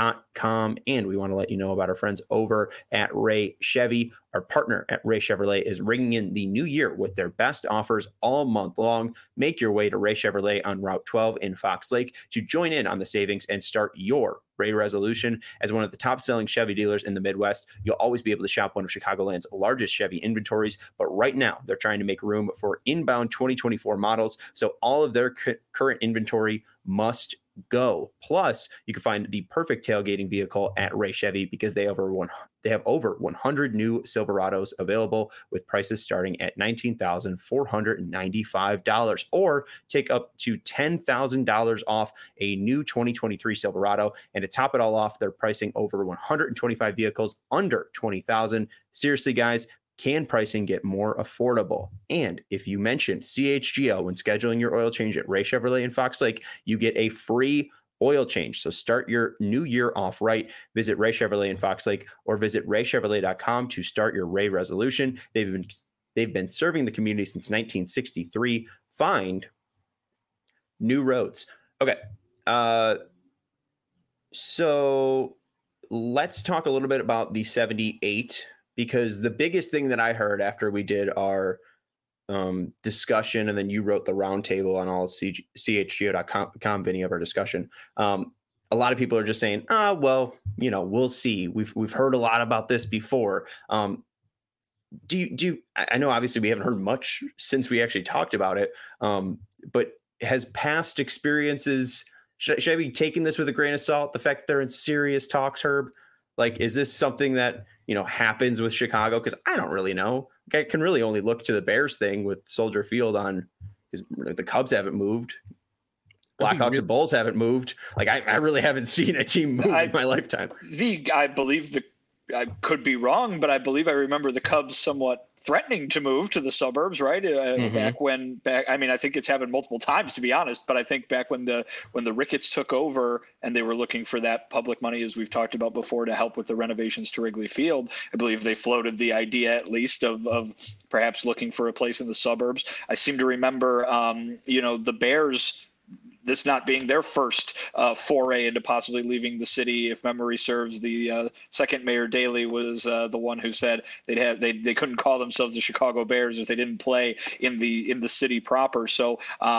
And we want to let you know about our friends over at Ray Chevy. Our partner at Ray Chevrolet is ringing in the new year with their best offers all month long. Make your way to Ray Chevrolet on Route 12 in Fox Lake to join in on the savings and start your Ray resolution. As one of the top selling Chevy dealers in the Midwest, you'll always be able to shop one of Chicagoland's largest Chevy inventories. But right now, they're trying to make room for inbound 2024 models. So all of their current inventory must go. Plus, you can find the perfect tailgating vehicle at Ray Chevy because they have over 100 new Silverados available with prices starting at $19,495, or take up to $10,000 off a new 2023 Silverado. And to top it all off, they're pricing over 125 vehicles under $20,000. Seriously, guys, can pricing get more affordable? And if you mention CHGO when scheduling your oil change at Ray Chevrolet in Fox Lake, you get a free oil change. So start your new year off right. Visit Ray Chevrolet in Fox Lake or visit raychevrolet.com to start your Ray resolution. They've been serving the community since 1963. Find new roads. Okay. So let's talk a little bit about the 78, because the biggest thing that I heard after we did our discussion, and then you wrote the roundtable on all chgo.com, Vinny, of our discussion. A lot of people are just saying, well, we'll see. We've heard a lot about this before. I know obviously we haven't heard much since we actually talked about it. But has past experiences, should I be taking this with a grain of salt? The fact that they're in serious talks, Herb? Like, is this something that, happens with Chicago? Because I don't really know. I can really only look to the Bears thing with Soldier Field on, because the Cubs haven't moved. Blackhawks and Bulls haven't moved. Like I really haven't seen a team move in my lifetime. I believe I could be wrong, but I believe I remember the Cubs somewhat threatening to move to the suburbs, right? I think it's happened multiple times, to be honest, but I think back when the Ricketts took over and they were looking for that public money, as we've talked about before, to help with the renovations to Wrigley Field, I believe they floated the idea at least of perhaps looking for a place in the suburbs. I seem to remember, the Bears, this not being their first foray into possibly leaving the city. If memory serves, the second Mayor Daley was the one who said they couldn't call themselves the Chicago Bears if they didn't play in the city proper. So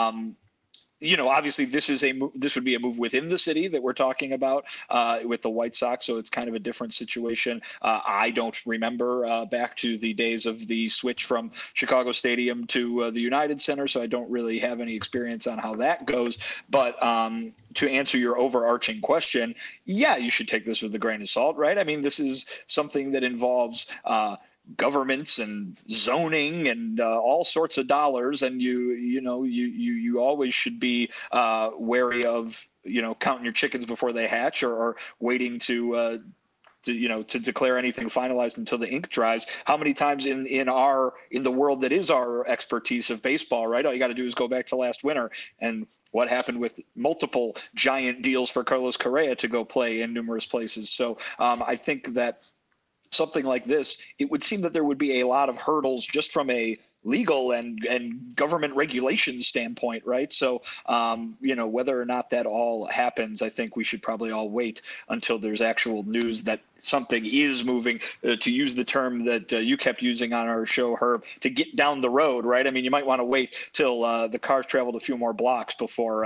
obviously this would be a move within the city that we're talking about with the White Sox. So it's kind of a different situation. I don't remember back to the days of the switch from Chicago Stadium to the United Center. So I don't really have any experience on how that goes. But to answer your overarching question, yeah, you should take this with a grain of salt, right? I mean, this is something that involves governments and zoning and all sorts of dollars, and you always should be wary of counting your chickens before they hatch, or waiting to declare anything finalized until the ink dries. How many times in the world that is our expertise of baseball, right? All you got to do is go back to last winter and what happened with multiple giant deals for Carlos Correa to go play in numerous places. So I think that something like this, it would seem that there would be a lot of hurdles just from a legal and government regulations standpoint, right? So, whether or not that all happens, I think we should probably all wait until there's actual news that something is moving, to use the term that you kept using on our show, Herb, to get down the road, right? I mean, you might want to wait till the cars traveled a few more blocks before,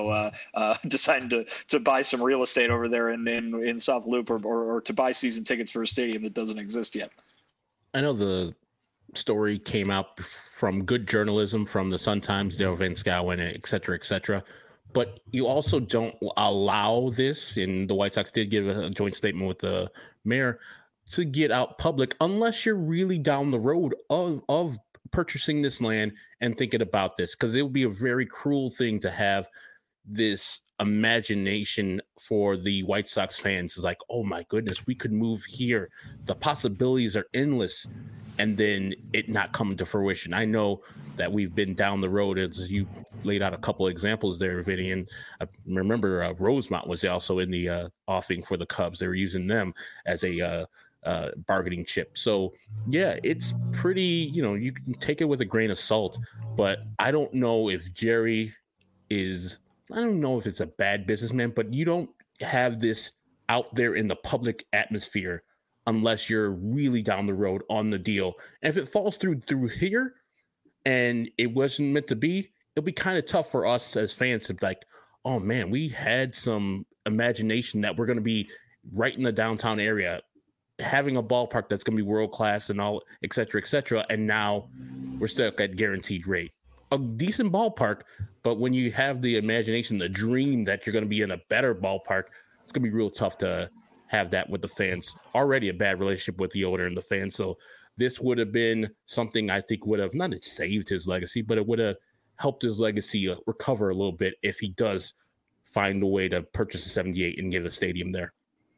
deciding to buy some real estate over there in South Loop, or to buy season tickets for a stadium that doesn't exist yet. I know the story came out from good journalism from the Sun-Times, Dale Van Schouwen, et cetera, but you also don't allow this, and the White Sox did give a joint statement with the mayor, to get out public unless you're really down the road of purchasing this land and thinking about this, because it would be a very cruel thing to have this imagination for the White Sox fans. Is like, oh my goodness, we could move here. The possibilities are endless. And then it not come to fruition. I know that we've been down the road, as you laid out a couple of examples there, Vinny. And I remember Rosemont was also in the offing for the Cubs. They were using them as a bargaining chip. So, yeah, it's pretty, you can take it with a grain of salt. But I don't know if Jerry is, I don't know if it's a bad businessman, but you don't have this out there in the public atmosphere unless you're really down the road on the deal. And if it falls through here and it wasn't meant to be, it'll be kind of tough for us as fans to be like, oh man, we had some imagination that we're going to be right in the downtown area, having a ballpark that's going to be world-class and all, et cetera, and now we're stuck at guaranteed rate. A decent ballpark, but when you have the imagination, the dream that you're going to be in a better ballpark, it's going to be real tough to have that with the fans. Already a bad relationship with the owner and the fans. So this would have been something I think would have not saved his legacy, but it would have helped his legacy recover a little bit if he does find a way to purchase a 78 and get a stadium there.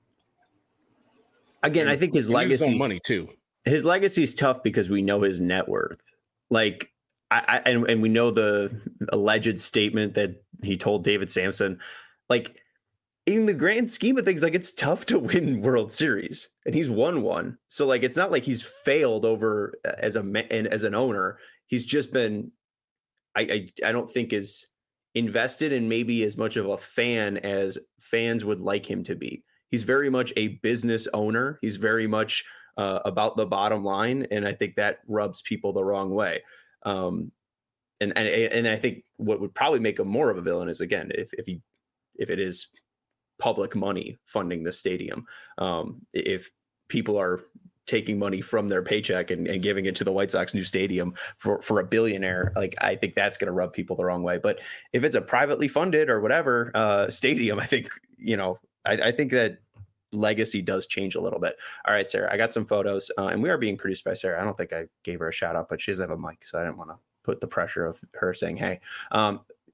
Again, I think his legacy money too. His legacy is tough because we know his net worth. Like, and we know the alleged statement that he told David Samson. Like, in the grand scheme of things, like, it's tough to win World Series, and he's won one. So, like, it's not like he's failed over as an owner. He's just been, I don't think, as invested in maybe as much of a fan as fans would like him to be. He's very much a business owner. He's very much about the bottom line, and I think that rubs people the wrong way. And I think what would probably make him more of a villain is, again, if it is public money funding the stadium. If people are taking money from their paycheck and giving it to the White Sox new stadium for a billionaire, like, I think that's going to rub people the wrong way. But if it's a privately funded or whatever stadium, I think, I think that legacy does change a little bit. All right, Sarah, I got some photos, and we are being produced by Sarah. I don't think I gave her a shout out, but she doesn't have a mic, so I didn't want to put the pressure of her saying, hey.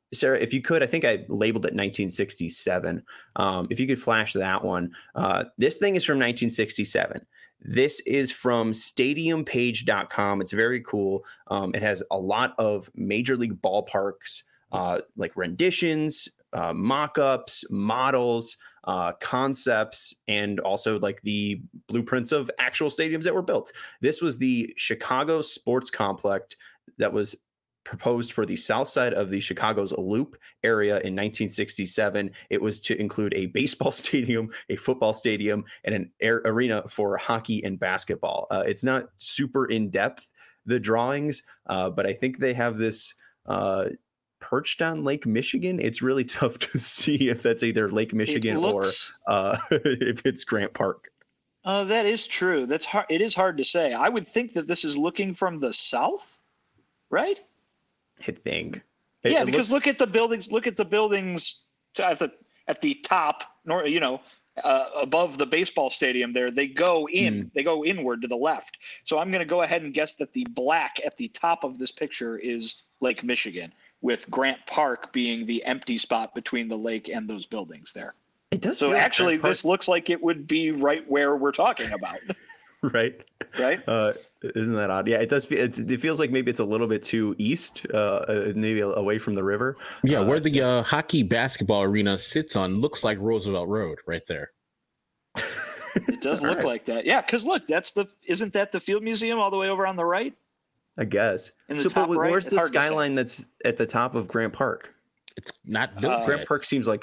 Sarah, if you could, I think I labeled it 1967. If you could flash that one. This thing is from 1967. This is from stadiumpage.com. It's very cool. It has a lot of major league ballparks, like renditions, mock-ups, models, concepts, and also like the blueprints of actual stadiums that were built. This was the Chicago Sports Complex that was proposed for the south side of the Chicago's Loop area in 1967. It was to include a baseball stadium, a football stadium, and an arena for hockey and basketball. It's not super in depth, the drawings, but I think they have this perched on Lake Michigan. It's really tough to see if that's either Lake Michigan or if it's Grant Park. That is true. That's hard. It is hard to say. I would think that this is looking from the south, right? I think. Yeah, because look at the buildings. Look at the buildings at the top, above the baseball stadium. There, they go in. They go inward to the left. So I'm going to go ahead and guess that the black at the top of this picture is Lake Michigan, with Grant Park being the empty spot between the lake and those buildings there. It does. So actually, this looks like it would be right where we're talking about. Right. Isn't that odd? Yeah, it does. It feels like maybe it's a little bit too east, maybe away from the river. Yeah, where the hockey basketball arena sits on looks like Roosevelt Road right there. It does look like that. Yeah, because look, isn't that the Field Museum all the way over on the right? I guess. But where's the skyline that's at the top of Grant Park? It's not built. Grant Park seems like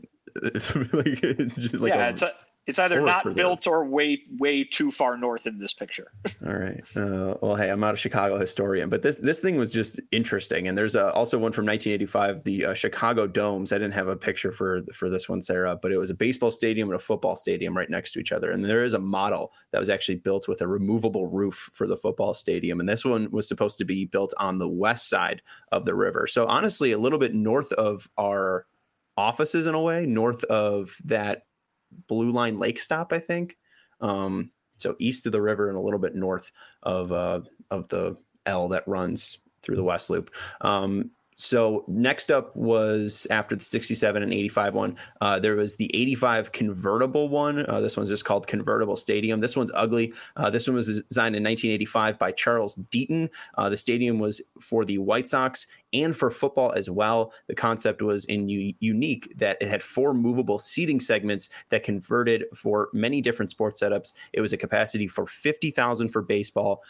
it's either not built or way too far north in this picture. All right. Well, hey, I'm not a Chicago historian, but this thing was just interesting. And there's also one from 1985, the Chicago Domes. I didn't have a picture for this one, Sarah, but it was a baseball stadium and a football stadium right next to each other. And there is a model that was actually built with a removable roof for the football stadium. And this one was supposed to be built on the west side of the river. So honestly, a little bit north of our offices in a way, north of that Blue Line Lake stop, I think. So east of the river and a little bit north of the L that runs through the West Loop. So next up was, after the 67 and 85 one, there was the 85 convertible one. This one's just called Convertible Stadium. This one's ugly. This one was designed in 1985 by Charles Deaton. The stadium was for the White Sox and for football as well. The concept was unique that it had 4 movable seating segments that converted for many different sports setups. It was a capacity for 50,000 for baseball,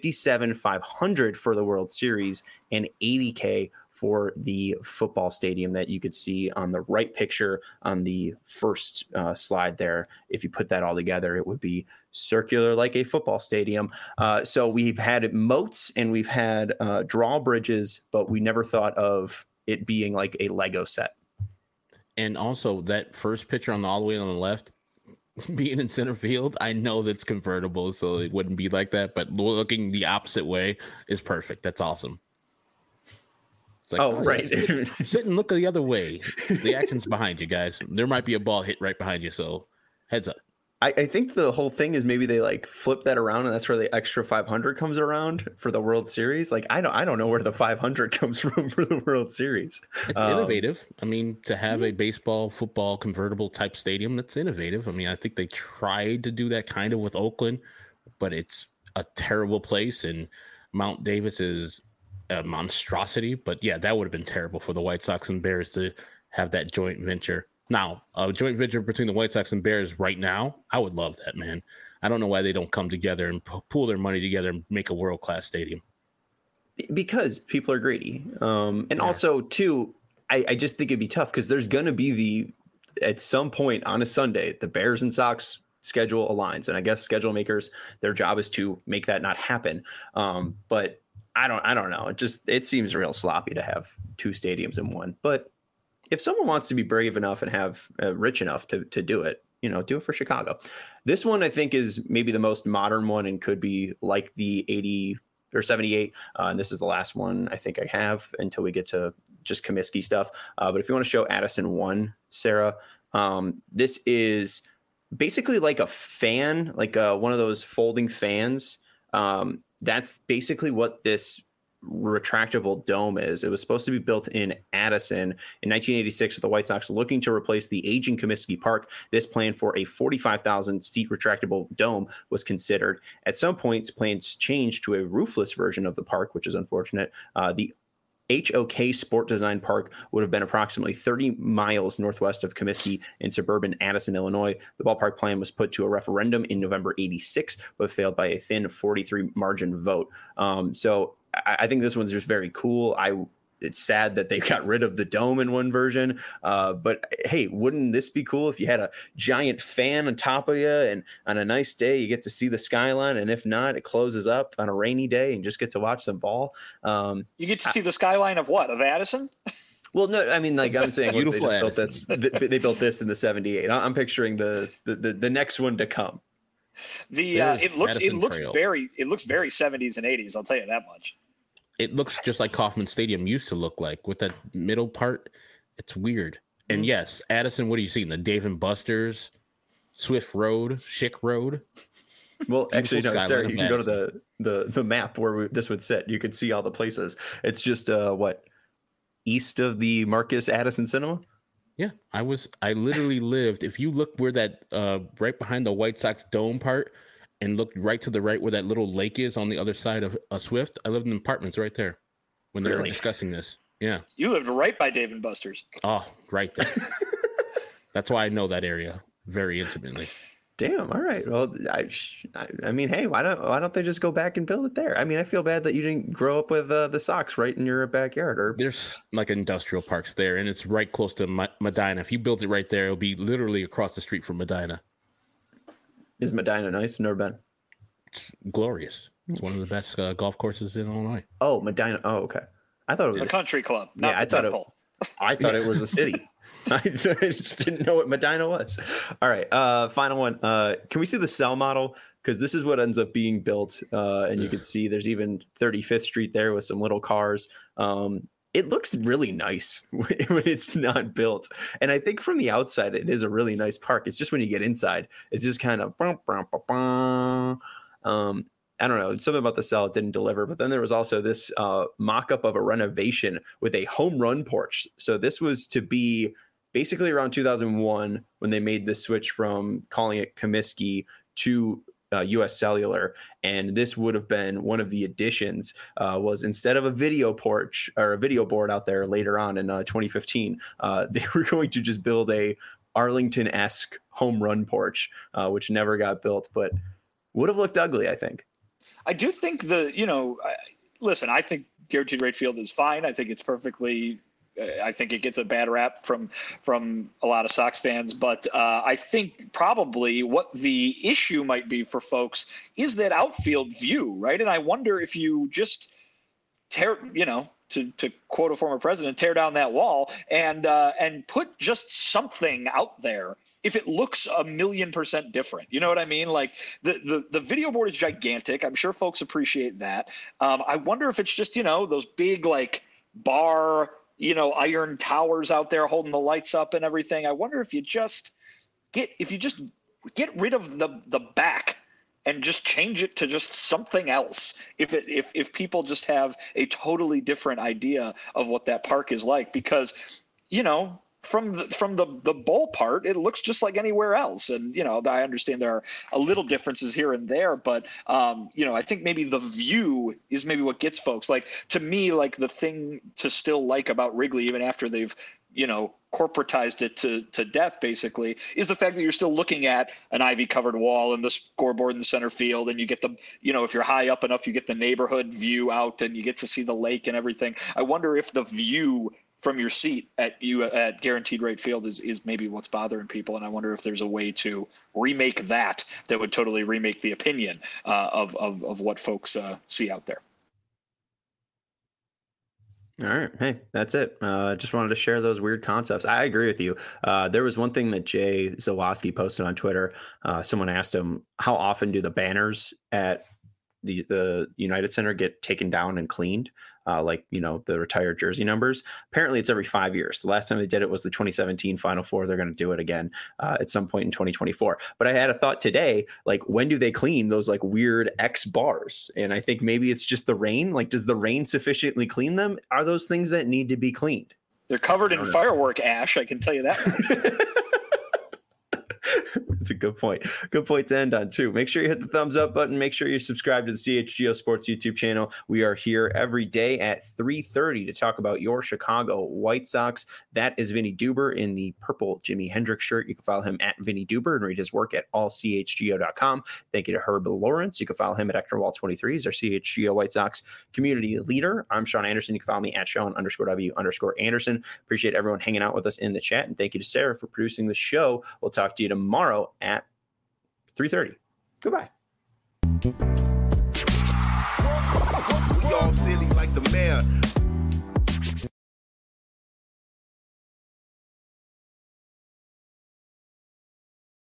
57,500 for the World Series, and 80K for the football stadium that you could see on the right picture on the first slide there. If you put that all together, it would be circular like a football stadium. So we've had moats and we've had drawbridges, but we never thought of it being like a Lego set. And also that first picture all the way on the left, being in center field, I know that's convertible, so it wouldn't be like that, but looking the opposite way is perfect. That's awesome. Like, right. Sit and look the other way. The action's behind you, guys. There might be a ball hit right behind you, so heads up. I think the whole thing is maybe they like flip that around, and that's where the extra 500 comes around for the World Series. Like I don't know where the 500 comes from for the World Series. It's innovative. I mean, to have a baseball, football convertible type stadium, that's innovative. I mean, I think they tried to do that kind of with Oakland, but it's a terrible place, and Mount Davis is a monstrosity. But yeah, that would have been terrible for the White Sox and Bears to have that joint venture. Now, a joint venture between the White Sox and Bears right now, I would love that, man. I don't know why they don't come together and pool their money together and make a world-class stadium. Because people are greedy. Also, too, I just think it'd be tough because there's going to be at some point on a Sunday, the Bears and Sox schedule aligns. And I guess schedule makers, their job is to make that not happen. But I don't know. It seems real sloppy to have 2 stadiums in one. But if someone wants to be brave enough and have rich enough to do it, do it for Chicago. This one I think is maybe the most modern one and could be like the 80 or 78. And this is the last one I think I have until we get to just Comiskey stuff. But if you want to show Addison 1, Sarah, this is basically like a fan, like one of those folding fans. That's basically what this retractable dome is. It was supposed to be built in Addison in 1986 with the White Sox looking to replace the aging Comiskey Park. This plan for a 45,000 seat retractable dome was considered. At some points, plans changed to a roofless version of the park, which is unfortunate. The HOK Sport Design Park would have been approximately 30 miles northwest of Comiskey in suburban Addison, Illinois. The ballpark plan was put to a referendum in November 86, but failed by a thin 43 margin vote. So I think this one's just very cool. It's sad that they got rid of the dome in one version. But hey, wouldn't this be cool if you had a giant fan on top of you and on a nice day you get to see the skyline, and if not, it closes up on a rainy day and just get to watch some ball. You get to see the skyline of what? Of Addison? Well, no, I mean, like I'm saying, Beautiful they built this. They built this in the '78. I'm picturing the next one to come. It looks very 70s and 80s. I'll tell you that much. It looks just like Kauffman Stadium used to look like, with that middle part. It's weird. And yes, Addison, what are you seeing? The Dave and Buster's, Swift Road, Schick Road. Well, actually, no, Sarah, you can go Addison. to the map where this would sit. You could see all the places. It's just east of the Marcus Addison Cinema. Yeah, I literally lived. If you look where that right behind the White Sox dome part, and look right to the right where that little lake is on the other side of Swift, I lived in apartments right there when they were discussing this. Yeah. You lived right by Dave and Buster's. Oh, right there. That's why I know that area very intimately. Damn. All right. Well, I mean, hey, why don't they just go back and build it there? I mean, I feel bad that you didn't grow up with the Sox right in your backyard. Or there's like industrial parks there, and it's right close to Medina. If you built it right there, it'll be literally across the street from Medina. Is Medina nice? Never been. It's glorious. It's one of the best golf courses in Illinois. Oh, Medina. Oh, okay. I thought it was a country club. Not I thought it was a city. I just didn't know what Medina was. All right. Final one. Can we see the cell model? Because this is what ends up being built. And you can see there's even 35th Street there with some little cars. It looks really nice when it's not built. And I think from the outside, it is a really nice park. It's just when you get inside, it's just kind of, I don't know, something about the cell didn't deliver. But then there was also this mock-up of a renovation with a home run porch. So this was to be basically around 2001 when they made the switch from calling it Comiskey to US Cellular, and this would have been one of the additions. Was instead of a video porch or a video board out there later on in 2015, they were going to just build a Arlington-esque home run porch, which never got built, but would have looked ugly, I think. I do think listen, I think Guaranteed Rate Field is fine. I think it's perfectly. I think it gets a bad rap from a lot of Sox fans, but I think probably what the issue might be for folks is that outfield view, right? And I wonder if you just to quote a former president, tear down that wall and put just something out there. If it looks 1,000,000% different, you know what I mean? Like the video board is gigantic. I'm sure folks appreciate that. I wonder if it's just, those big like bar, iron towers out there holding the lights up and everything. I wonder if you just get rid of the back and just change it to just something else. If people just have a totally different idea of what that park is like, because, from the bowl part, it looks just like anywhere else. And, I understand there are a little differences here and there, but, I think maybe the view is maybe what gets folks. Like, to me, like the thing to still like about Wrigley, even after they've, corporatized it to death, basically, is the fact that you're still looking at an ivy covered wall and the scoreboard in the center field. And you get the, if you're high up enough, you get the neighborhood view out and you get to see the lake and everything. I wonder if the view from your seat at Guaranteed Rate Field is maybe what's bothering people. And I wonder if there's a way to remake that would totally remake the opinion of what folks see out there. All right. Hey, that's it. Just wanted to share those weird concepts. I agree with you. There was one thing that Jay Zawoski posted on Twitter. Someone asked him, how often do the banners at the United Center get taken down and cleaned, like, you know, the retired jersey numbers. Apparently it's every 5 years. The last time they did it was the 2017 Final Four. They're going to do it again at some point in 2024. But I had a thought today, like, when do they clean those like weird X bars? And I think maybe it's just the rain. Like, does the rain sufficiently clean them? Are those things that need to be cleaned? They're covered in firework ash, I can tell you that much. That's a good point. Good point to end on, too. Make sure you hit the thumbs up button. Make sure you subscribe to the CHGO Sports YouTube channel. We are here every day at 3:30 to talk about your Chicago White Sox. That is Vinny Duber in the purple Jimi Hendrix shirt. You can follow him at Vinny Duber and read his work at allchgo.com. Thank you to Herb Lawrence. You can follow him at Ectorwall23. He's our CHGO White Sox community leader. I'm Sean Anderson. You can follow me at Sean_W_Anderson. Appreciate everyone hanging out with us in the chat. And thank you to Sarah for producing the show. We'll talk to you tomorrow at 3:30. Goodbye. We all silly like the mayor.